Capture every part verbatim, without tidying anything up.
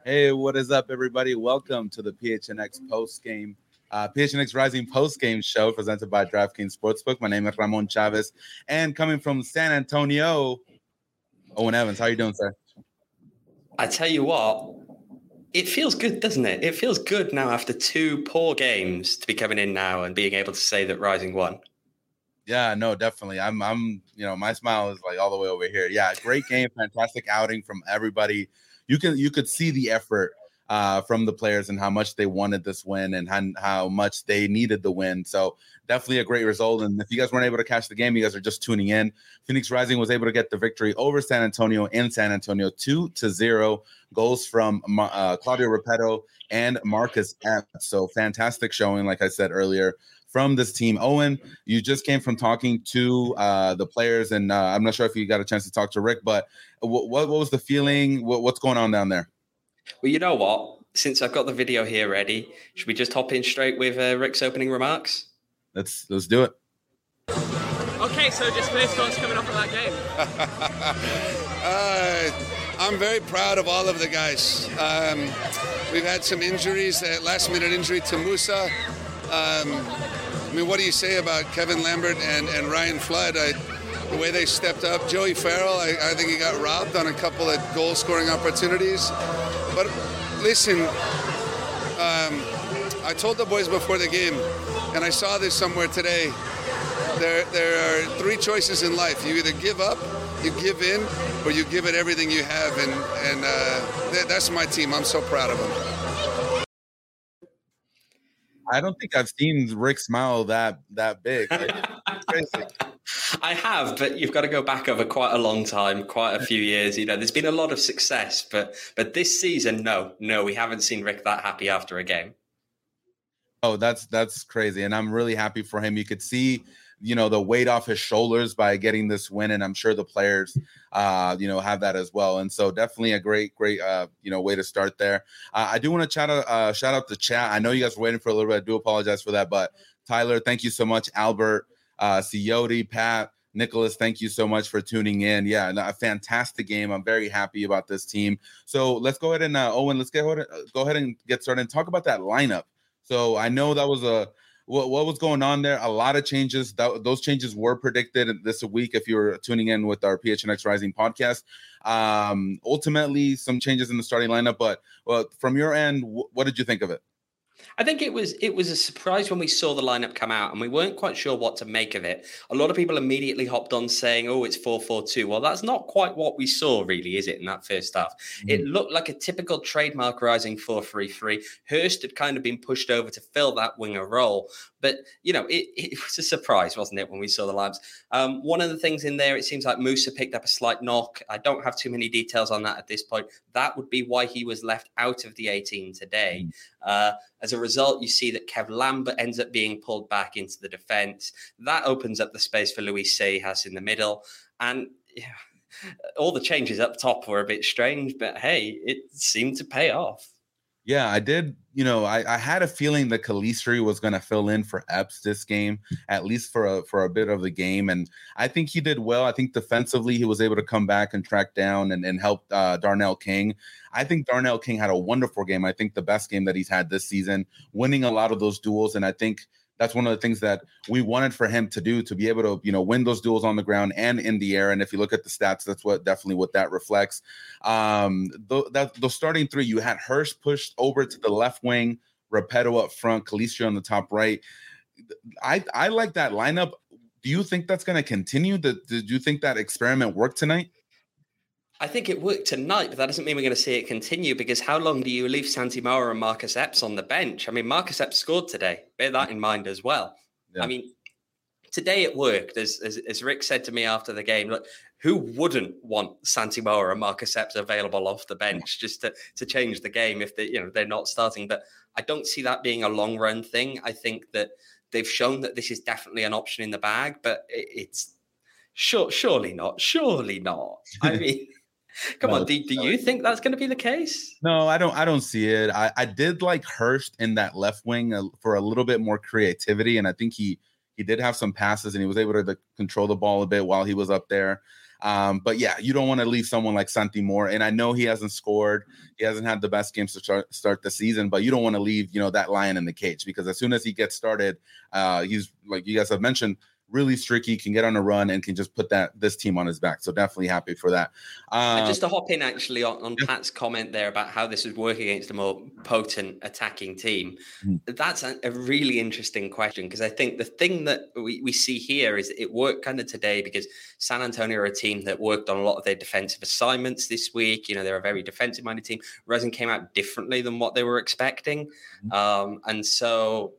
Hey, what is up, everybody? Welcome to the P H N X post game, uh, P H N X Rising post game show presented by DraftKings Sportsbook. My name is Ramon Chavez, and coming from San Antonio, Owen Evans. How are you doing, sir? I tell you what, it feels good, doesn't it? It feels good now after two poor games to be coming in now and being able to say that Rising won. Yeah, no, definitely. I'm, I'm, you know, my smile is like all the way over here. Yeah, great game, fantastic outing from everybody. You can, you could see the effort uh, from the players and how much they wanted this win and how, how much they needed the win. So definitely a great result. And if you guys weren't able to catch the game, you guys are just tuning in. Phoenix Rising was able to get the victory over San Antonio in San Antonio, two to zero. Goals from uh, Claudio Repetto and Marcus Epps. So fantastic showing, like I said earlier, from this team. Owen, you just came from talking to uh, the players, and uh, I'm not sure if you got a chance to talk to Rick, but w- what, what was the feeling? What, what's going on down there? Well, you know what? Since I've got the video here ready, should we just hop in straight with uh, Rick's opening remarks? Let's let's do it. Okay, so just first thoughts coming off of that game. uh, I'm very proud of all of the guys. Um, we've had some injuries, uh, last-minute injury to Musa. Um, I mean, what do you say about Kevin Lambert and, and Ryan Flood? I, the way they stepped up. Joey Farrell, I, I think he got robbed on a couple of goal-scoring opportunities. But listen, um, I told the boys before the game, and I saw this somewhere today, there, there are three choices in life. You either give up, you give in, or you give it everything you have. And, and uh, th- that's my team. I'm so proud of them. I don't think I've seen Rick smile that that big. It's crazy. I have, but you've got to go back over quite a long time, quite a few years. You know, there's been a lot of success, but but this season, no, no, we haven't seen Rick that happy after a game. Oh, that's that's crazy, and I'm really happy for him. You could see, you know, the weight off his shoulders by getting this win, and I'm sure the players, uh, you know, have that as well. And so definitely a great, great, uh, you know, way to start there. Uh, I do want to chat, uh, shout out the chat. I know you guys were waiting for a little bit. I do apologize for that, but Tyler, thank you so much. Albert, uh, Coyote, Pat, Nicholas, thank you so much for tuning in. Yeah, a fantastic game. I'm very happy about this team. So let's go ahead and uh, Owen, let's get go ahead and get started and talk about that lineup. So I know that was a what, what was going on there. A lot of changes. That, those changes were predicted this week. If you were tuning in with our P H N X Rising podcast, um, ultimately some changes in the starting lineup. But well, from your end, w- what did you think of it? I think it was it was a surprise when we saw the lineup come out and we weren't quite sure what to make of it. A lot of people immediately hopped on saying, oh, it's four four two. Well, that's not quite what we saw, really, is it, in that first half? Mm-hmm. It looked like a typical trademark Rising four three three. Hurst had kind of been pushed over to fill that winger role. But, you know, it, it was a surprise, wasn't it, when we saw the lineups? Um, one of the things in there, it seems like Musa picked up a slight knock. I don't have too many details on that at this point. That would be why he was left out of the eighteen today. Mm-hmm. Uh, as a result, you see that Kev Lambert ends up being pulled back into the defense. That opens up the space for Luis Seijas in the middle. And yeah, all the changes up top were a bit strange, but hey, it seemed to pay off. Yeah, I did. You know, I, I had a feeling that Calistri was going to fill in for Epps this game, at least for a, for a bit of the game. And I think he did well. I think defensively, he was able to come back and track down and, and help uh, Darnell King. I think Darnell King had a wonderful game. I think the best game that he's had this season, winning a lot of those duels. And I think that's one of the things that we wanted for him to do, to be able to, you know, win those duels on the ground and in the air. And if you look at the stats, that's what definitely what that reflects. Um, the, that the starting three, you had Hurst pushed over to the left wing, Repetto up front, Calistri on the top right. I I like that lineup. Do you think that's going to continue? Did, did you think that experiment worked tonight? I think it worked tonight, but that doesn't mean we're going to see it continue, because how long do you leave Santi Mora and Marcus Epps on the bench? I mean, Marcus Epps scored today. Bear that in mind as well. Yeah. I mean, today it worked. As, as as Rick said to me after the game, look, who wouldn't want Santi Mora and Marcus Epps available off the bench just to, to change the game if they, you know, they're not starting? But I don't see that being a long run thing. I think that they've shown that this is definitely an option in the bag, but it, it's sure, surely not. Surely not. I mean... Come no, on, do, do you think that's going to be the case? No, I don't. I don't see it. I, I did like Hurst in that left wing uh, for a little bit more creativity, and I think he he did have some passes, and he was able to, to control the ball a bit while he was up there. Um, but yeah, you don't want to leave someone like Santi Moore. And I know he hasn't scored. He hasn't had the best games to start, start the season, but you don't want to leave, you know, that lion in the cage, because as soon as he gets started, uh, he's, like you guys have mentioned, really streaky, can get on a run, and can just put that this team on his back. So definitely happy for that. Uh, Um, just to hop in actually on, on Pat's comment there about how this is working against a more potent attacking team. Mm-hmm. That's a, a really interesting question, because I think the thing that we, we see here is it worked kind of today because San Antonio are a team that worked on a lot of their defensive assignments this week. You know, they're a very defensive minded team. Rising came out differently than what they were expecting. Mm-hmm. Um, and so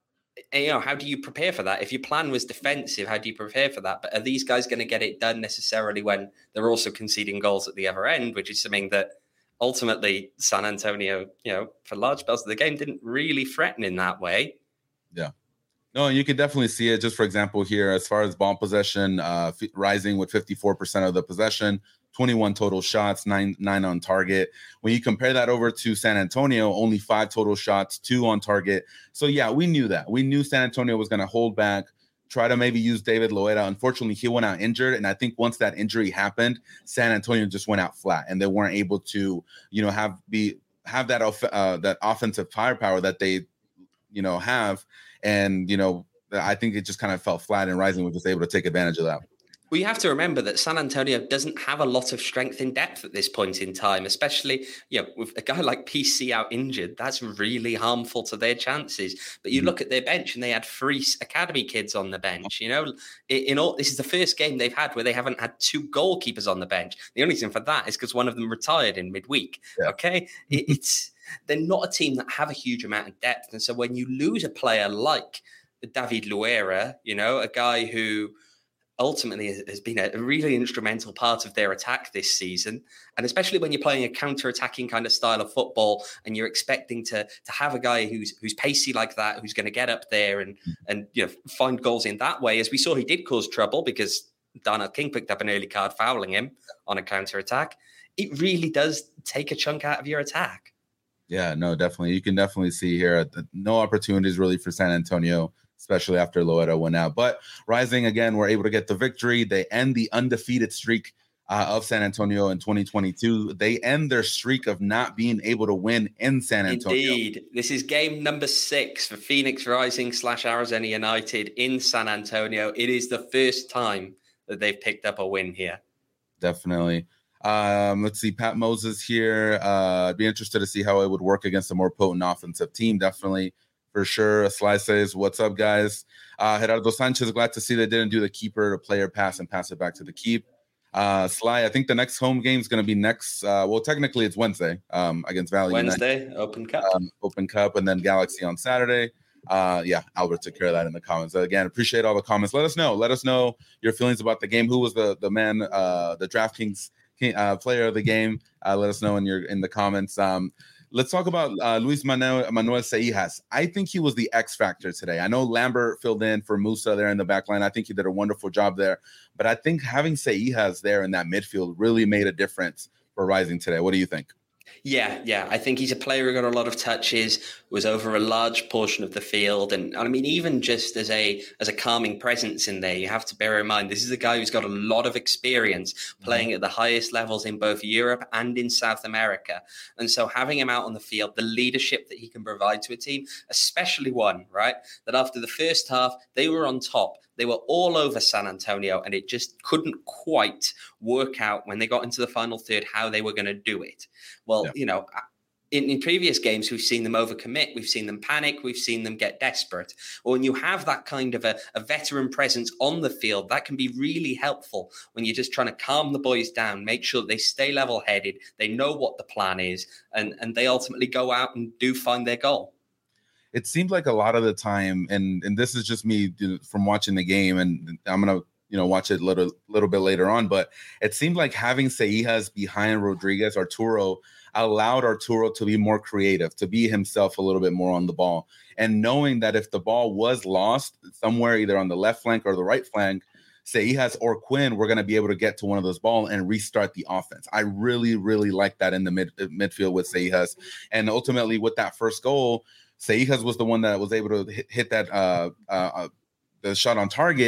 you know, how do you prepare for that? If your plan was defensive, how do you prepare for that? But are these guys going to get it done necessarily when they're also conceding goals at the other end, which is something that ultimately San Antonio, you know, for large spells of the game didn't really threaten in that way. Yeah. No, you can definitely see it. Just for example, here, as far as ball possession, uh, f- Rising with fifty-four percent of the possession, twenty-one total shots, nine nine on target. When you compare that over to San Antonio, only five total shots, two on target. So yeah, we knew that. We knew San Antonio was going to hold back, try to maybe use David Loera. Unfortunately, he went out injured, and I think once that injury happened, San Antonio just went out flat, and they weren't able to, you know, have be have that uh, that offensive firepower that they, you know, have. And, you know, I think it just kind of fell flat, and Rising was just able to take advantage of that. Well, you have to remember that San Antonio doesn't have a lot of strength in depth at this point in time, especially, you know, with a guy like P C out injured. That's really harmful to their chances. But you mm-hmm. look at their bench, and they had three academy kids on the bench. You know, in all, this is the first game they've had where they haven't had two goalkeepers on the bench. The only reason for that is because one of them retired in midweek. Yeah. Okay, it, it's they're not a team that have a huge amount of depth, and so when you lose a player like David Loera, you know, a guy who ultimately has been a really instrumental part of their attack this season. And especially when you're playing a counter-attacking kind of style of football, and you're expecting to to have a guy who's who's pacey like that, who's going to get up there and and you know find goals in that way. As we saw, he did cause trouble because Darnell King picked up an early card fouling him on a counter-attack. It really does take a chunk out of your attack. Yeah, no, definitely. You can definitely see here that no opportunities really for San Antonio, especially after Loera went out. But Rising, again, were able to get the victory. They end the undefeated streak uh, of San Antonio in twenty twenty-two. They end their streak of not being able to win in San Antonio. Indeed. This is game number six for Phoenix Rising slash Arizona United in San Antonio. It is the first time that they've picked up a win here. Definitely. Um, let's see, Pat Moses here. Uh, I'd be interested to see how it would work against a more potent offensive team. Definitely. For sure. Sly says, what's up, guys? Uh, Gerardo Sanchez, glad to see they didn't do the keeper to player pass and pass it back to the keep. Uh, Sly, I think the next home game is going to be next. Uh, well, technically it's Wednesday um, against Valley Wednesday, United. Open Cup. Um, Open Cup, and then Galaxy on Saturday. Uh, yeah, Albert took care of that in the comments. Again, appreciate all the comments. Let us know. Let us know your feelings about the game. Who was the the man, uh, the DraftKings uh, player of the game? Uh, let us know in your in the comments. Um, Let's talk about uh, Luis Manuel, Manuel Seijas. I think he was the X factor today. I know Lambert filled in for Musa there in the back line. I think he did a wonderful job there. But I think having Seijas there in that midfield really made a difference for Rising today. What do you think? Yeah, yeah. I think he's a player who got a lot of touches, was over a large portion of the field. And I mean, even just as a as a calming presence in there, you have to bear in mind, this is a guy who's got a lot of experience playing at the highest levels in both Europe and in South America. And so having him out on the field, the leadership that he can provide to a team, especially one, right, that after the first half, they were on top. They were all over San Antonio, and it just couldn't quite work out when they got into the final third how they were going to do it. Well, yeah. you know, in, in previous games, we've seen them overcommit. We've seen them panic. We've seen them get desperate. Well, when you have that kind of a, a veteran presence on the field, that can be really helpful when you're just trying to calm the boys down, make sure that they stay level-headed, they know what the plan is, and, and they ultimately go out and do find their goal. It seemed like a lot of the time, and and this is just me from watching the game, and I'm gonna you know watch it a little little bit later on, but it seemed like having Seijas behind Rodriguez, Arturo, allowed Arturo to be more creative, to be himself a little bit more on the ball, and knowing that if the ball was lost somewhere, either on the left flank or the right flank, Seijas or Quinn were going to be able to get to one of those balls and restart the offense. I really, really like that in the mid midfield with Seijas, and ultimately with that first goal, Seijas was the one that was able to hit, hit that uh, uh, the shot on target.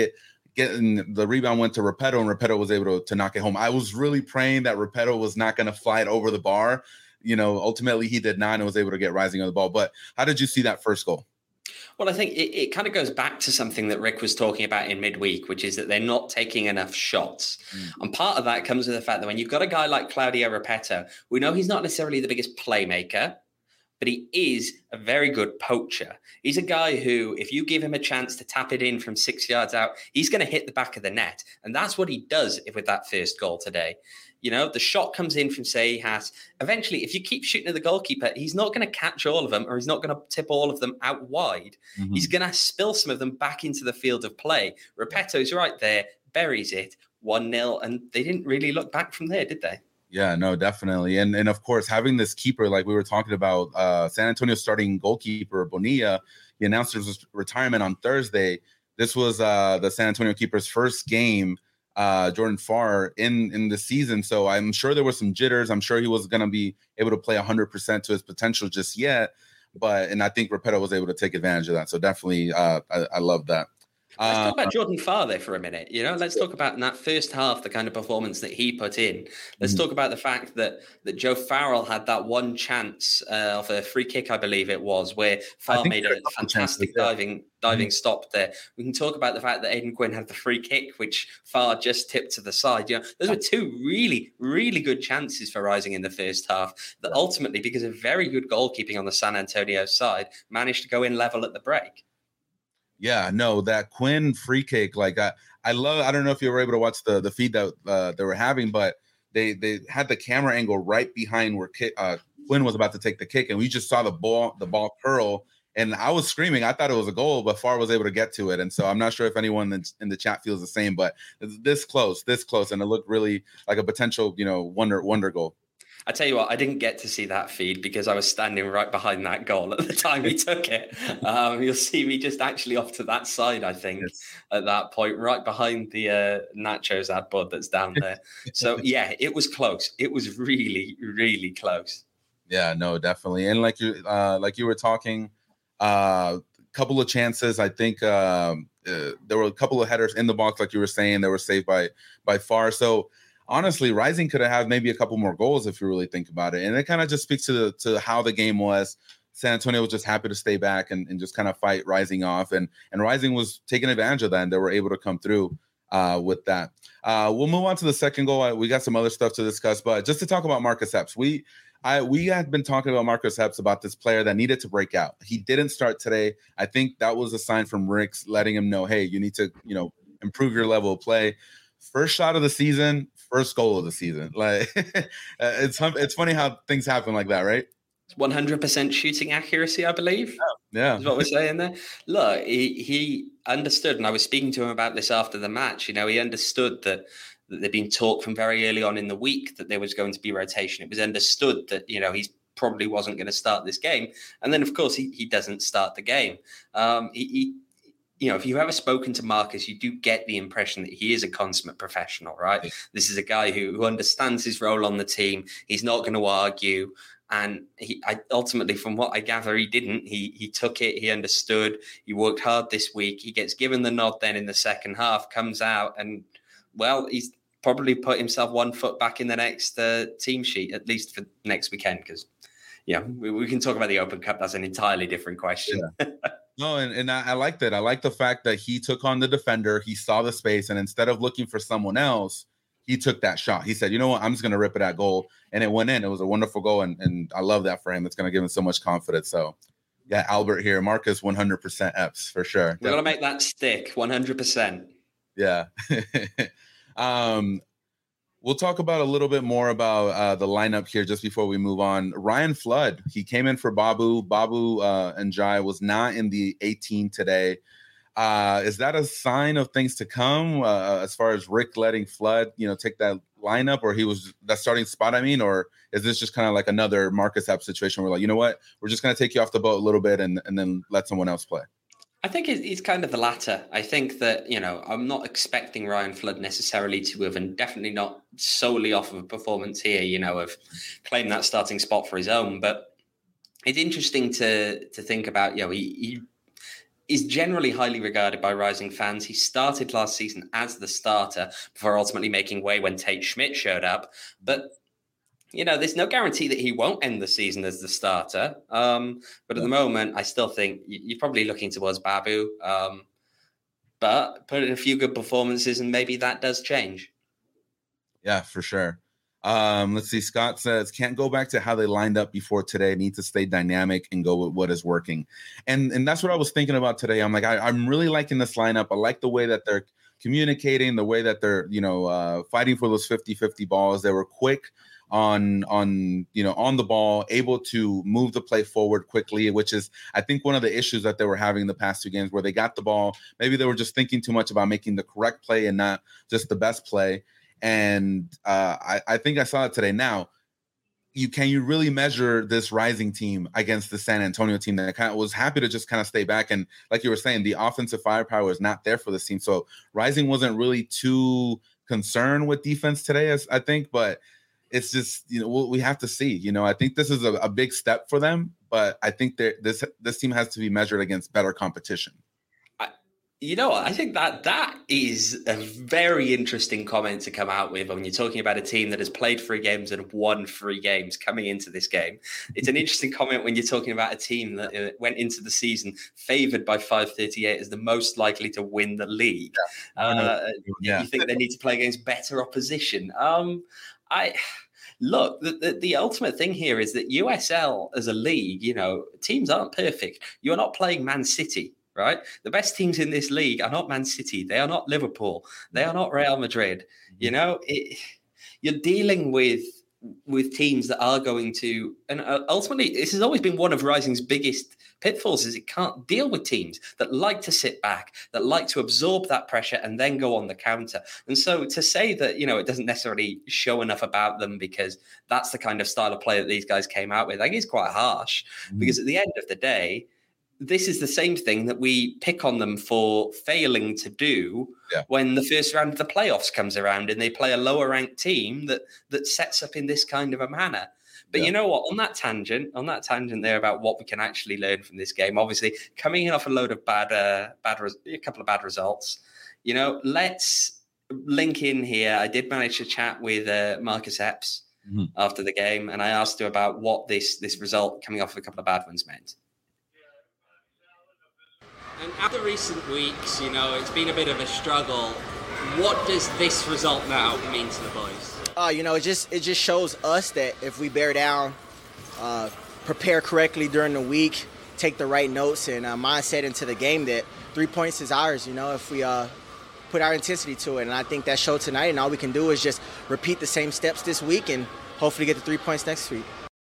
getting the rebound went to Repetto, and Repetto was able to, to knock it home. I was really praying that Repetto was not going to fly it over the bar. You know, ultimately he did not and was able to get Rising on the ball. But how did you see that first goal? Well, I think it, it kind of goes back to something that Rick was talking about in midweek, which is that they're not taking enough shots. Mm. And part of that comes with the fact that when you've got a guy like Claudio Repetto, we know he's not necessarily the biggest playmaker, but he is a very good poacher. He's a guy who, if you give him a chance to tap it in from six yards out, he's going to hit the back of the net. And that's what he does with that first goal today. You know, the shot comes in from Seijas. Eventually, if you keep shooting at the goalkeeper, he's not going to catch all of them, or he's not going to tip all of them out wide. Mm-hmm. He's going to spill some of them back into the field of play. Repetto's right there, buries it, one nil, and they didn't really look back from there, did they? Yeah, no, definitely. And and of course, having this keeper, like we were talking about, uh, San Antonio starting goalkeeper, Bonilla, he announced his retirement on Thursday. This was uh, the San Antonio keeper's first game, uh, Jordan Farr, in, in the season. So I'm sure there were some jitters. I'm sure he was going to be able to play one hundred percent to his potential just yet. But, and I think Repetto was able to take advantage of that. So definitely, uh, I, I love that. Let's talk about Jordan Farr there for a minute. You know, let's talk about in that first half, the kind of performance that he put in. Let's mm-hmm. talk about the fact that that Joe Farrell had that one chance uh, of a free kick, I believe it was, where Farr made a, a fantastic chances, yeah. diving diving mm-hmm. stop there. We can talk about the fact that Aidan Quinn had the free kick, which Farr just tipped to the side. You know, those were two really, really good chances for Rising in the first half that ultimately, because of very good goalkeeping on the San Antonio side, managed to go in level at the break. Yeah, no, that Quinn free kick, like I, I love. I don't know if you were able to watch the the feed that uh, they were having, but they they had the camera angle right behind where kick, uh, Quinn was about to take the kick, and we just saw the ball the ball curl, and I was screaming. I thought it was a goal, but Farr was able to get to it, and so I'm not sure if anyone in, in the chat feels the same, but it's this close, this close, and it looked really like a potential, you know, wonder wonder goal. I tell you what, I didn't get to see that feed because I was standing right behind that goal at the time he took it. Um, you'll see me just actually off to that side, I think, yes. at that point, right behind the uh, Nachos ad bud that's down there. So, yeah, it was close. It was really, really close. Yeah, no, definitely. And like you, uh, like you were talking, a uh, couple of chances. I think um, uh, there were a couple of headers in the box, like you were saying, that were saved by by Farr. So, honestly, Rising could have had maybe a couple more goals if you really think about it. And it kind of just speaks to the, to how the game was. San Antonio was just happy to stay back and, and just kind of fight Rising off. And, and Rising was taking advantage of that, and they were able to come through uh, with that. Uh, we'll move on to the second goal. We got some other stuff to discuss, but just to talk about Marcus Epps, we I we had been talking about Marcus Epps, about this player that needed to break out. He didn't start today. I think that was a sign from Rick's letting him know, hey, you need to, you know, improve your level of play. First shot of the season, first goal of the season. Like it's it's funny how things happen like that, right? one hundred percent shooting accuracy, I believe. Yeah, is what we're saying there. Look, he he understood, and I was speaking to him about this after the match. You know, he understood that, that there'd been talk from very early on in the week that there was going to be rotation. It was understood that, you know, he's probably wasn't going to start this game, and then of course he he doesn't start the game. Um, he. he You know, if you've ever spoken to Marcus, you do get the impression that he is a consummate professional, right? Yeah. This is a guy who, who understands his role on the team. He's not going to argue. And he I, ultimately, from what I gather, he didn't. He he took it. He understood. He worked hard this week. He gets given the nod then in the second half, comes out, and, well, he's probably put himself one foot back in the next uh, team sheet, at least for next weekend, because, yeah, we, we can talk about the Open Cup. That's an entirely different question. Yeah. No, and, and I, I like that. I like the fact that he took on the defender. He saw the space, and instead of looking for someone else, he took that shot. He said, you know what, I'm just going to rip it at goal. And it went in. It was a wonderful goal, and, and I love that for him. It's going to give him so much confidence. So, yeah, Albert here. Marcus, one hundred percent Epps for sure. We're going to make that stick, one hundred percent. Yeah. um, We'll talk about a little bit more about uh, the lineup here just before we move on. Ryan Flood, he came in for Babu. Babu uh, and Jai was not in the eighteen today. Uh, is that a sign of things to come uh, as far as Rick letting Flood, you know, take that lineup, or he was that starting spot? I mean, or is this just kind of like another Marcus Epps situation where, like, you know what, we're just going to take you off the boat a little bit and, and then let someone else play? I think it's kind of the latter. I think that, you know, I'm not expecting Ryan Flood necessarily to have, and definitely not solely off of a performance here, you know, of claiming that starting spot for his own. But it's interesting to to think about, you know, he, he is generally highly regarded by Rising fans. He started last season as the starter before ultimately making way when Tate Schmidt showed up. But, you know, there's no guarantee that he won't end the season as the starter. Um, but at the moment, I still think you're probably looking towards Babu. Um, but put in a few good performances and maybe that does change. Yeah, for sure. Um, let's see. Scott says, can't go back to how they lined up before today. Need to stay dynamic and go with what is working. And and that's what I was thinking about today. I'm like, I, I'm really liking this lineup. I like the way that they're communicating, the way that they're, you know, uh, fighting for those fifty-fifty balls. They were quick on, on, you know, on the ball, able to move the play forward quickly, which is, I think, one of the issues that they were having the past two games where they got the ball. Maybe they were just thinking too much about making the correct play and not just the best play. And uh, I, I think I saw it today. Now, you can you really measure this Rising team against the San Antonio team that kind of was happy to just kind of stay back? And like you were saying, the offensive firepower is not there for this team. So Rising wasn't really too concerned with defense today, as I think. But it's just, you know, we have to see. You know, I think this is a, a big step for them. But I think that this this team has to be measured against better competition. You know, I think that that is a very interesting comment to come out with when you're talking about a team that has played three games and won three games coming into this game. It's an interesting comment when you're talking about a team that went into the season favored by five thirty-eight as the most likely to win the league. Yeah. Uh, yeah. You think they need to play against better opposition? Um, I... Look, the, the, the ultimate thing here is that U S L as a league, you know, teams aren't perfect. You're not playing Man City. Right? The best teams in this league are not Man City. They are not Liverpool. They are not Real Madrid. You know, it, you're dealing with with teams that are going to, and ultimately, this has always been one of Rising's biggest pitfalls, is it can't deal with teams that like to sit back, that like to absorb that pressure and then go on the counter. And so to say that, you know, it doesn't necessarily show enough about them because that's the kind of style of play that these guys came out with, I think is quite harsh. Mm. Because at the end of the day, this is the same thing that we pick on them for failing to do yeah. when the first round of the playoffs comes around and they play a lower ranked team that that sets up in this kind of a manner. But yeah. you know what? On that tangent, on that tangent there about what we can actually learn from this game, obviously coming in off a load of bad, uh, bad, res- a couple of bad results. You know, let's link in here. I did manage to chat with uh, Marcus Epps mm-hmm. after the game, and I asked him about what this this result coming off of a couple of bad ones meant. And after recent weeks, you know, it's been a bit of a struggle. What does this result now mean to the boys? Uh, you know, it just it just shows us that if we bear down, uh, prepare correctly during the week, take the right notes and uh, mindset into the game, that three points is ours, you know, if we uh, put our intensity to it. And I think that showed tonight, and all we can do is just repeat the same steps this week and hopefully get the three points next week.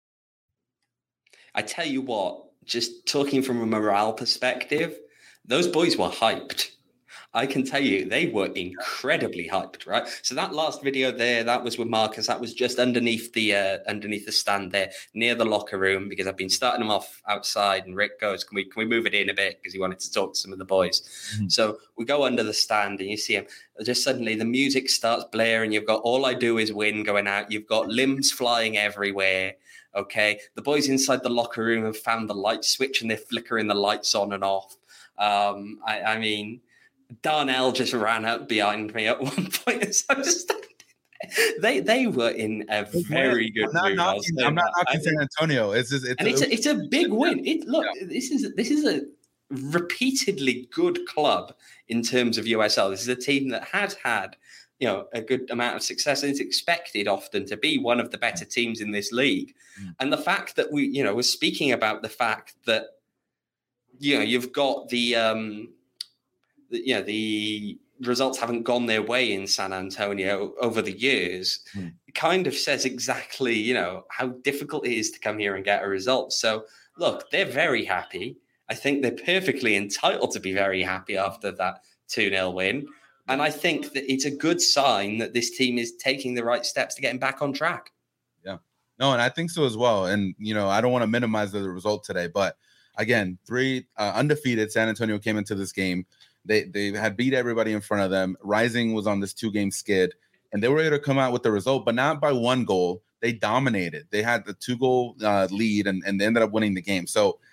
I tell you what, just talking from a morale perspective, those boys were hyped. I can tell you, they were incredibly hyped, right? So that last video there, that was with Marcus. That was just underneath the uh, underneath the stand there, near the locker room, because I've been starting them off outside. And Rick goes, "Can we can we move it in a bit?" Because he wanted to talk to some of the boys. Mm-hmm. So we go under the stand, and you see him. Just suddenly, the music starts blaring. You've got "All I Do Is Win" going out. You've got limbs flying everywhere. Okay, the boys inside the locker room have found the light switch, and they're flickering the lights on and off. Um, I, I mean, Darnell just ran up behind me at one point. So I just, they they were in a very good I'm not mood. Knocking, I'm not knocking San Antonio. It's just it's and a, it's a, it's a big win. It look, yeah. this is this is a repeatedly good club in terms of U S L. This is a team that has had, you know, a good amount of success, and it's expected often to be one of the better teams in this league. Mm. And the fact that we, you know, we're speaking about the fact that, you know, you've got the, um, the, you know, the results haven't gone their way in San Antonio over the years, mm. it kind of says exactly, you know, how difficult it is to come here and get a result. So, look, they're very happy. I think they're perfectly entitled to be very happy after that two nil win. And I think that it's a good sign that this team is taking the right steps to getting back on track. Yeah. No, and I think so as well. And, you know, I don't want to minimize the result today, but again, three uh, undefeated. San Antonio came into this game. They they had beat everybody in front of them. Rising was on this two-game skid, and they were able to come out with the result, but not by one goal. They dominated. They had the two-goal uh, lead, and, and they ended up winning the game. So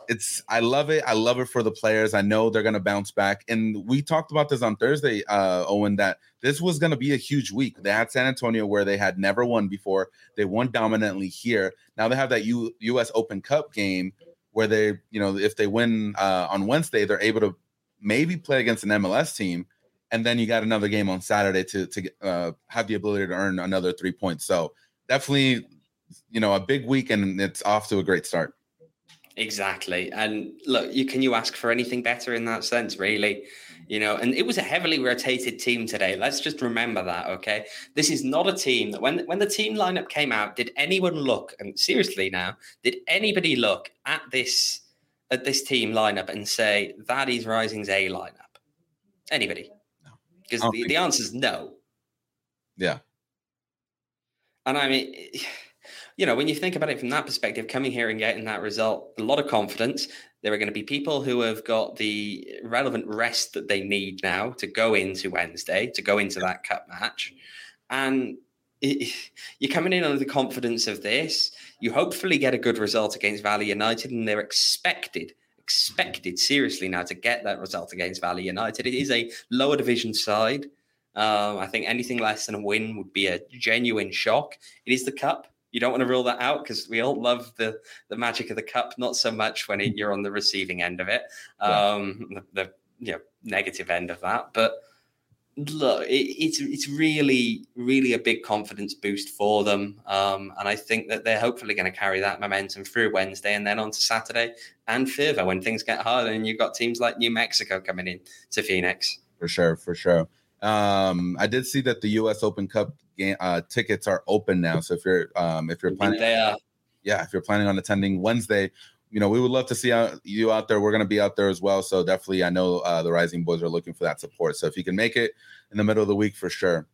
it's I love it. I love it for the players. I know they're gonna bounce back. And we talked about this on Thursday, uh, Owen, that this was gonna be a huge week. They had San Antonio where they had never won before. They won dominantly here. Now they have that U- U.S. Open Cup game where they, you know, if they win uh, on Wednesday, they're able to maybe play against an M L S team. And then you got another game on Saturday to to uh, have the ability to earn another three points. So definitely, you know, a big week, and it's off to a great start. Exactly. And look, you can you ask for anything better in that sense, really? You know, and it was a heavily rotated team today. Let's just remember that, okay? This is not a team that when, when the team lineup came out, did anyone look, and seriously now, did anybody look at this at this team lineup and say, that is Rising's A lineup? Anybody? No. Because the, the answer is no. Yeah. And I mean... You know, when you think about it from that perspective, coming here and getting that result, a lot of confidence. There are going to be people who have got the relevant rest that they need now to go into Wednesday, to go into that cup match. And it, you're coming in under the confidence of this. You hopefully get a good result against Valley United, and they're expected, expected seriously now to get that result against Valley United. It is a lower division side. Um, I think anything less than a win would be a genuine shock. It is the cup. You don't want to rule that out because we all love the, the magic of the cup, not so much when it, you're on the receiving end of it, um, yeah. the, the you know, negative end of that. But look, it, it's it's really, really a big confidence boost for them. Um, and I think that they're hopefully going to carry that momentum through Wednesday and then on to Saturday and further when things get harder. And you've got teams like New Mexico coming in to Phoenix. For sure, for sure. Um, I did see that the U S Open Cup game, uh, tickets are open now. So if you're um, if you're planning, they are. yeah, if you're planning on attending Wednesday, you know, we would love to see you out there. We're going to be out there as well. So definitely, I know uh, the Rising Boys are looking for that support. So if you can make it in the middle of the week, for sure.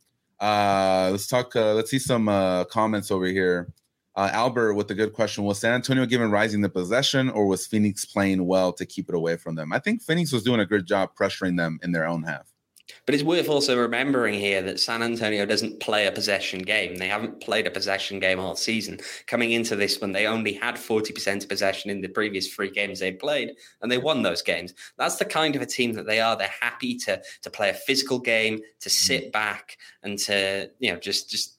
Uh, let's talk. Uh, let's see some uh, comments over here. Uh, Albert with a good question: was San Antonio giving Rising the possession, or was Phoenix playing well to keep it away from them? I think Phoenix was doing a good job pressuring them in their own half. But it's worth also remembering here that San Antonio doesn't play a possession game. They haven't played a possession game all season. Coming into this one, they only had forty percent possession in the previous three games they played, and they won those games. That's the kind of a team that they are. They're happy to to play a physical game, to sit back and to, you know, just just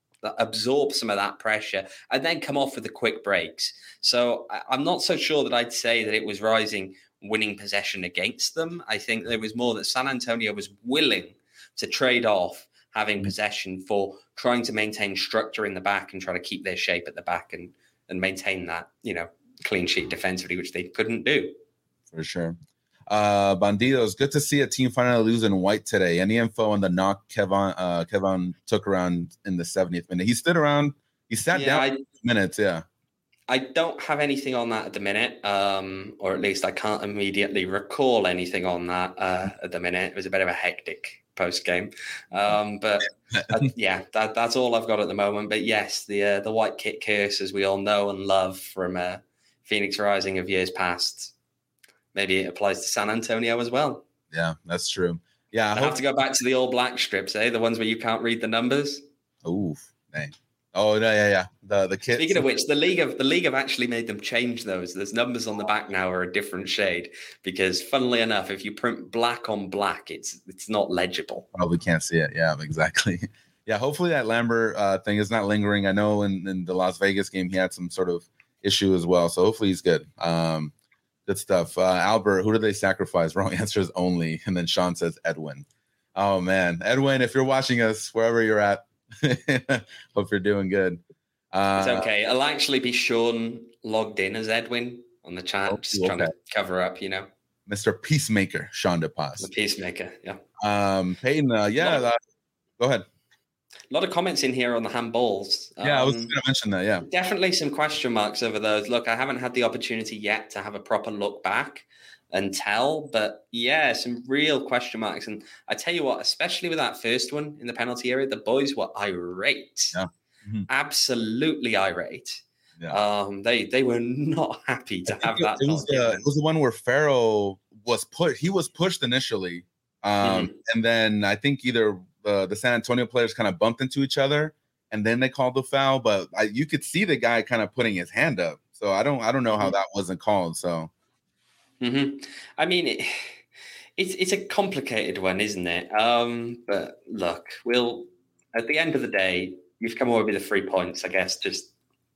absorb some of that pressure and then come off with the quick breaks. So I'm not so sure that I'd say that it was Rising winning possession against them. I think there was more that San Antonio was willing to trade off having possession for trying to maintain structure in the back and try to keep their shape at the back and and maintain that, you know, clean sheet defensively, which they couldn't do. For sure. Uh, Bandidos, good to see a team finally lose in white today. Any info on the knock Kevin uh, Kevin took around in the seventieth minute? He stood around, he sat yeah, down I, for minutes, yeah. I don't have anything on that at the minute, um, or at least I can't immediately recall anything on that uh, at the minute. It was a bit of a hectic post game, um, but uh, yeah, that, that's all I've got at the moment. But yes, the uh, the white kit curse, as we all know and love from uh, Phoenix Rising of years past, maybe it applies to San Antonio as well. Yeah, that's true. Yeah, I, I hope- have to go back to the all black strips, eh? The ones where you can't read the numbers. Ooh, dang. Oh no, yeah, yeah. The the kits. Speaking of which, the league have the league have actually made them change those. There's numbers on the back now are a different shade because, funnily enough, if you print black on black, it's it's not legible. Probably can't see it. Yeah, exactly. Yeah, hopefully that Lambert uh, thing is not lingering. I know in, in the Las Vegas game he had some sort of issue as well, so hopefully he's good. Um, good stuff. Uh, Albert, who did they sacrifice? Wrong answer is only, and then Sean says Edwin. Oh man, Edwin, if you're watching us wherever you're at. Hope you're doing good. Uh, it's okay. It'll actually be Sean logged in as Edwin on the chat, oh, just okay. trying to cover up, you know. Mister Peacemaker, Sean DePaz. The Peacemaker, yeah. Um, Peyton, uh, yeah, of, uh, go ahead. A lot of comments in here on the handballs. Yeah, um, I was going to mention that, yeah. Definitely some question marks over those. Look, I haven't had the opportunity yet to have a proper look back and tell, but yeah, some real question marks. And I tell you what, especially with that first one in the penalty area, the boys were irate, yeah. mm-hmm. absolutely irate. Yeah. Um, they they were not happy to have that. It was, the, it was the one where Farrell was put. He was pushed initially, um, mm-hmm. and then I think either uh, the San Antonio players kind of bumped into each other, and then they called the foul. But I, you could see the guy kind of putting his hand up. So I don't I don't know how that wasn't called. So. Mm-hmm. I mean, it, it's it's a complicated one, isn't it? Um, but look, we'll at the end of the day, you've come away with the three points. I guess just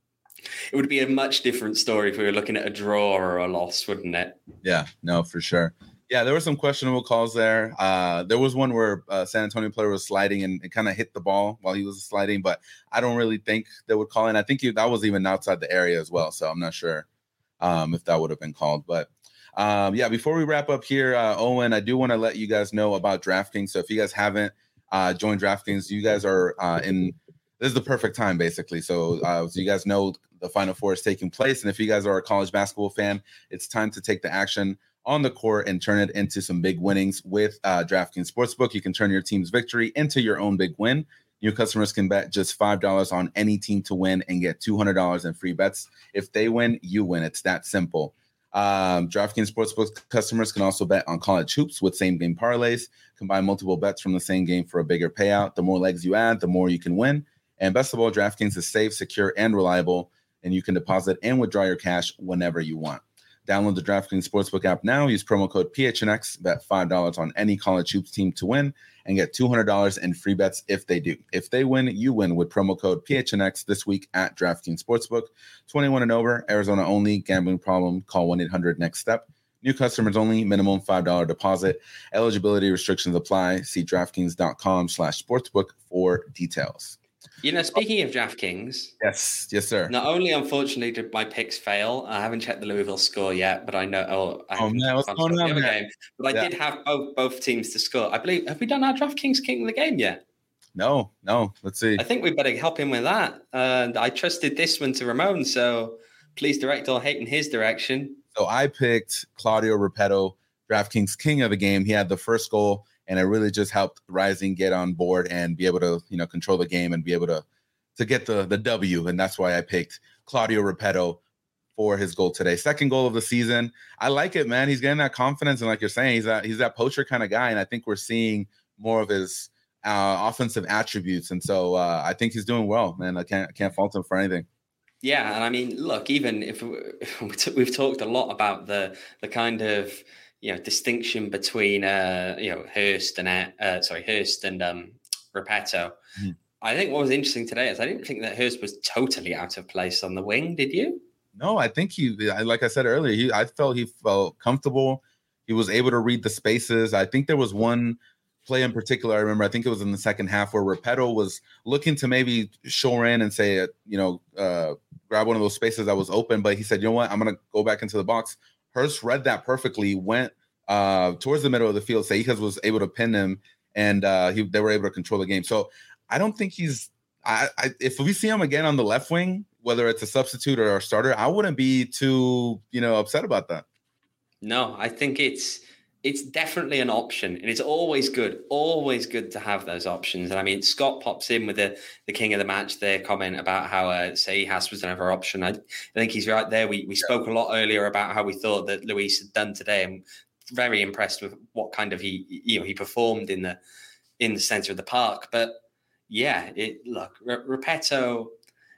it would be a much different story if we were looking at a draw or a loss, wouldn't it? Yeah, no, for sure. Yeah, there were some questionable calls there. Uh, there was one where a San Antonio player was sliding and it kind of hit the ball while he was sliding, but I don't really think they would call it. I think he, that was even outside the area as well, so I'm not sure um, if that would have been called. But um, yeah, before we wrap up here, uh, Owen, I do want to let you guys know about DraftKings. So if you guys haven't uh, joined DraftKings, you guys are uh, in – this is the perfect time, basically. So, uh, so you guys know the Final Four is taking place, and if you guys are a college basketball fan, it's time to take the action on the court and turn it into some big winnings with uh, DraftKings Sportsbook. You can turn your team's victory into your own big win. New customers can bet just five dollars on any team to win and get two hundred dollars in free bets. If they win, you win. It's that simple. Um, DraftKings Sportsbook customers can also bet on college hoops with same-game parlays. Combine multiple bets from the same game for a bigger payout. The more legs you add, the more you can win. And best of all, DraftKings is safe, secure, and reliable, and you can deposit and withdraw your cash whenever you want. Download the DraftKings Sportsbook app now. Use promo code P H N X. Bet five dollars on any college hoops team to win and get two hundred dollars in free bets if they do. If they win, you win with promo code P H N X this week at DraftKings Sportsbook. twenty-one and over, Arizona only. Gambling problem, call one eight hundred next step. New customers only, minimum five dollars deposit. Eligibility restrictions apply. See DraftKings.com slash sportsbook for details. You know, speaking of DraftKings, yes, yes, sir. Not only, unfortunately, did my picks fail. I haven't checked the Louisville score yet, but I know. Oh, I oh man, what's going on? Game, but I yeah. did have both both teams to score. I believe. Have we done our DraftKings King of the Game yet? No, no. Let's see. I think we better help him with that. And I trusted this one to Ramon, so please direct all hate in his direction. So I picked Claudio Repetto, DraftKings King of the Game. He had the first goal. And it really just helped Rising get on board and be able to, you know, control the game and be able to to get the the W. And that's why I picked Claudio Repetto for his goal today. Second goal of the season. I like it, man. He's getting that confidence. And like you're saying, he's that he's that poacher kind of guy. And I think we're seeing more of his uh, offensive attributes. And so uh, I think he's doing well, man. I can't I can't fault him for anything. Yeah. And I mean, look, even if we've talked a lot about the the kind of, you know, distinction between, uh, you know, Hurst and, uh, sorry, Hurst and um, Repetto. Mm-hmm. I think what was interesting today is I didn't think that Hurst was totally out of place on the wing. Did you? No, I think he, like I said earlier, he, I felt he felt comfortable. He was able to read the spaces. I think there was one play in particular, I remember, I think it was in the second half where Repetto was looking to maybe shore in and say, you know, uh, grab one of those spaces that was open. But he said, you know what, I'm going to go back into the box. Hurst read that perfectly, went uh, towards the middle of the field. Seijas was able to pin him, and uh, he, they were able to control the game. So I don't think he's I, I, – if we see him again on the left wing, whether it's a substitute or a starter, I wouldn't be too, you know, upset about that. No, I think it's it's definitely an option, and it's always good, always good to have those options. And I mean, Scott pops in with the, the king of the match there comment about how uh, Seijas was another option. I, I think he's right there. We we yeah. spoke a lot earlier about how we thought that Luis had done today. I'm very impressed with what kind of he you know he performed in the in the center of the park. But yeah, it, look, R- Repetto.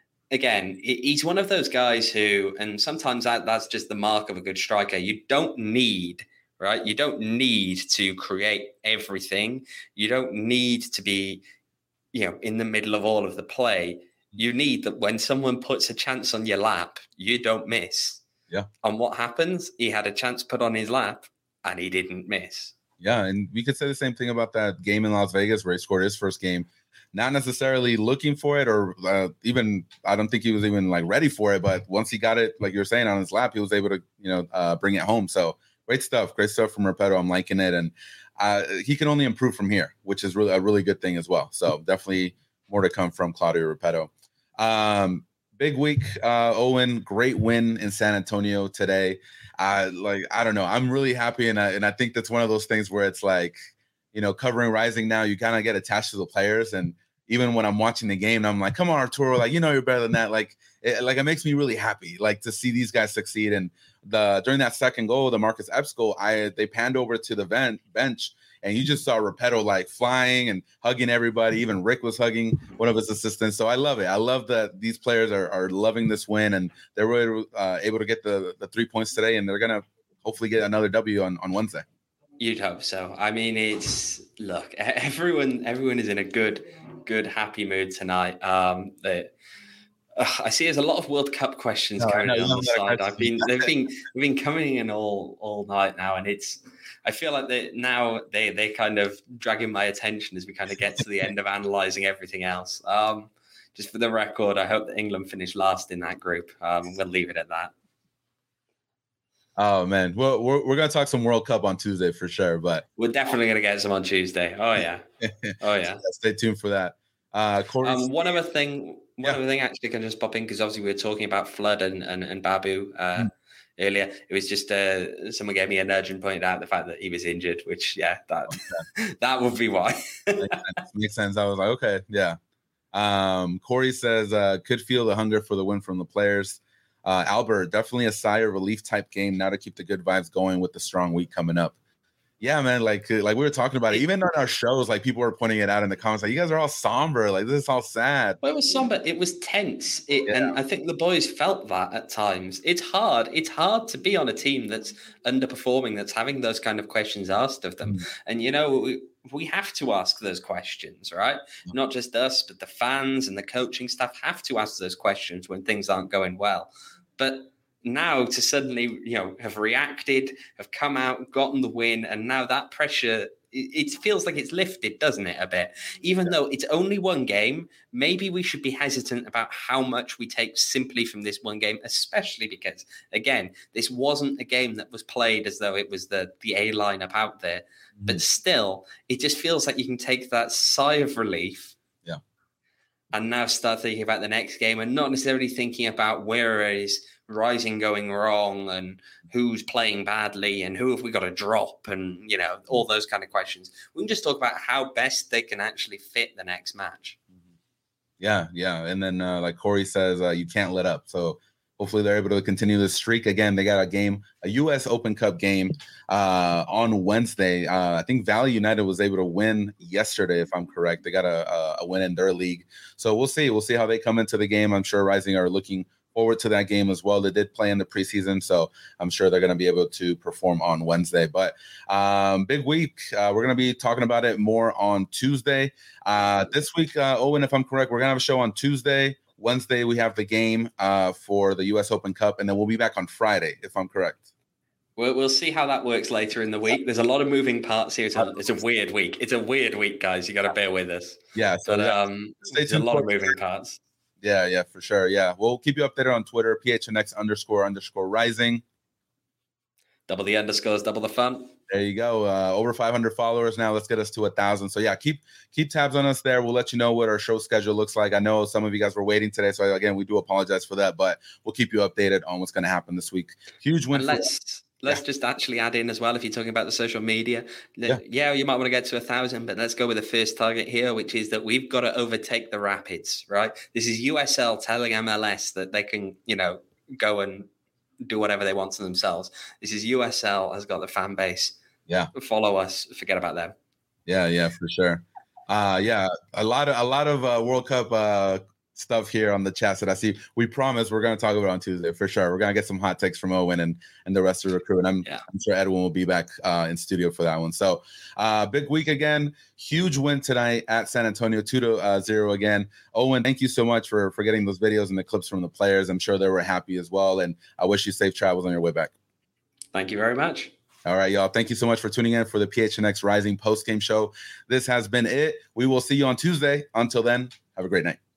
Again, he's one of those guys who, and sometimes that, that's just the mark of a good striker. You don't need, right? You don't need to create everything. You don't need to be, you know, in the middle of all of the play. You need that when someone puts a chance on your lap, you don't miss. Yeah. And what happens? He had a chance put on his lap and he didn't miss. Yeah. And we could say the same thing about that game in Las Vegas where he scored his first game. Not necessarily looking for it or uh, even, I don't think he was even like ready for it. But once he got it, like you're saying, on his lap, he was able to, you know, uh, bring it home. So great stuff. Great stuff from Repetto. I'm liking it. And uh, he can only improve from here, which is really a really good thing as well. So definitely more to come from Claudio Repetto. Um, big week, uh, Owen. Great win in San Antonio today. Uh, like, I don't know. I'm really happy. And I, and I think that's one of those things where it's like, you know, covering Rising now, you kind of get attached to the players. And even when I'm watching the game, I'm like, come on, Arturo, like, you know, you're better than that. Like, it, like, it makes me really happy, like, to see these guys succeed. And the during that second goal, the Marcus Epps goal, I they panned over to the vent, bench, and you just saw Repetto, like, flying and hugging everybody. Even Rick was hugging one of his assistants. So I love it. I love that these players are, are loving this win, and they're really uh, able to get the, the three points today, and they're going to hopefully get another W on, on Wednesday. You'd hope so. I mean, it's look, everyone, everyone is in a good, good, happy mood tonight. Um, they, uh, I see there's a lot of World Cup questions no, coming no, in on no, the no, side. no, I've been, they've been, they've been coming in all, all night now, and it's. I feel like they now they they kind of dragging my attention as we kind of get to the end of analysing everything else. Um, just for the record, I hope that England finish last in that group. Um, we'll leave it at that. Oh man, well, we're we're gonna talk some World Cup on Tuesday for sure, but we're definitely gonna get some on Tuesday. Oh yeah, oh yeah. So stay tuned for that. Uh, um, one other thing, one yeah. other thing actually can just pop in because obviously we were talking about Flood and and, and Babu uh, mm. earlier. It was just uh, someone gave me a nudge and pointed out the fact that he was injured, which yeah, that okay. that would be why. Makes sense. Makes sense. I was like, okay, yeah. Um, Corey says uh, could feel the hunger for the win from the players. Uh, Albert, definitely a sigh of relief type game now to keep the good vibes going with the strong week coming up. Yeah, man, like like we were talking about it. Even on our shows, like people were pointing it out in the comments, like you guys are all somber, like this is all sad. Well, it was somber. It was tense, it, yeah. and I think the boys felt that at times. It's hard. It's hard to be on a team that's underperforming, that's having those kind of questions asked of them. Mm. And you know, we, we have to ask those questions, right? Mm. Not just us, but the fans and the coaching staff have to ask those questions when things aren't going well. But now to suddenly, you know, have reacted, have come out, gotten the win, and now that pressure, it, it feels like it's lifted, doesn't it, a bit? Even yeah. though it's only one game, maybe we should be hesitant about how much we take simply from this one game, especially because, again, this wasn't a game that was played as though it was the, the A lineup out there. Mm-hmm. But still, it just feels like you can take that sigh of relief yeah. and now start thinking about the next game and not necessarily thinking about where it is Rising going wrong and who's playing badly and who have we got to drop and, you know, all those kind of questions. We can just talk about how best they can actually fit the next match. Yeah, yeah. And then uh, like Corey says, uh, you can't let up. So hopefully they're able to continue this streak. Again, they got a game, a U S Open Cup game uh, on Wednesday. Uh, I think Valley United was able to win yesterday, if I'm correct. They got a, a win in their league. So we'll see. We'll see how they come into the game. I'm sure Rising are looking forward to that game as well. They did play in the preseason, so I'm sure they're going to be able to perform on Wednesday. But um, big week. Uh, we're going to be talking about it more on Tuesday. Uh, this week, uh, Owen, if I'm correct, we're going to have a show on Tuesday. Wednesday, we have the game uh, for the U S Open Cup, and then we'll be back on Friday, if I'm correct. We'll, we'll see how that works later in the week. There's a lot of moving parts here. It's a, it's a weird week. It's a weird week, guys. You got to bear with us. Yeah, so but, yeah, um, there's a lot of moving parts. Yeah, yeah, for sure. Yeah, we'll keep you updated on Twitter, P H N X underscore underscore rising. Double the underscores, double the fun. There you go. Uh, over five hundred followers now. Let's get us to a thousand. So yeah, keep keep tabs on us there. We'll let you know what our show schedule looks like. I know some of you guys were waiting today, so again, we do apologize for that, but we'll keep you updated on what's going to happen this week. Huge win. And let's let's yeah. just actually add in as well, if you're talking about the social media. Yeah. yeah, you might want to get to a thousand, but let's go with the first target here, which is that we've got to overtake the Rapids, right? This is U S L telling M L S that they can, you know, go and do whatever they want to themselves. This is U S L has got the fan base. Yeah. Follow us. Forget about them. Yeah, yeah, for sure. Uh, yeah, a lot of a lot of uh, World Cup uh, stuff here on the chat that I see. We promise we're going to talk about it on Tuesday for sure. We're going to get some hot takes from Owen and, and the rest of the crew. And I'm, yeah. I'm sure Edwin will be back uh, in studio for that one. So uh, big week again. Huge win tonight at San Antonio, two to zero again. Owen, thank you so much for, for getting those videos and the clips from the players. I'm sure they were happy as well. And I wish you safe travels on your way back. Thank you very much. All right, y'all. Thank you so much for tuning in for the P H N X Rising post-game show. This has been it. We will see you on Tuesday. Until then, have a great night.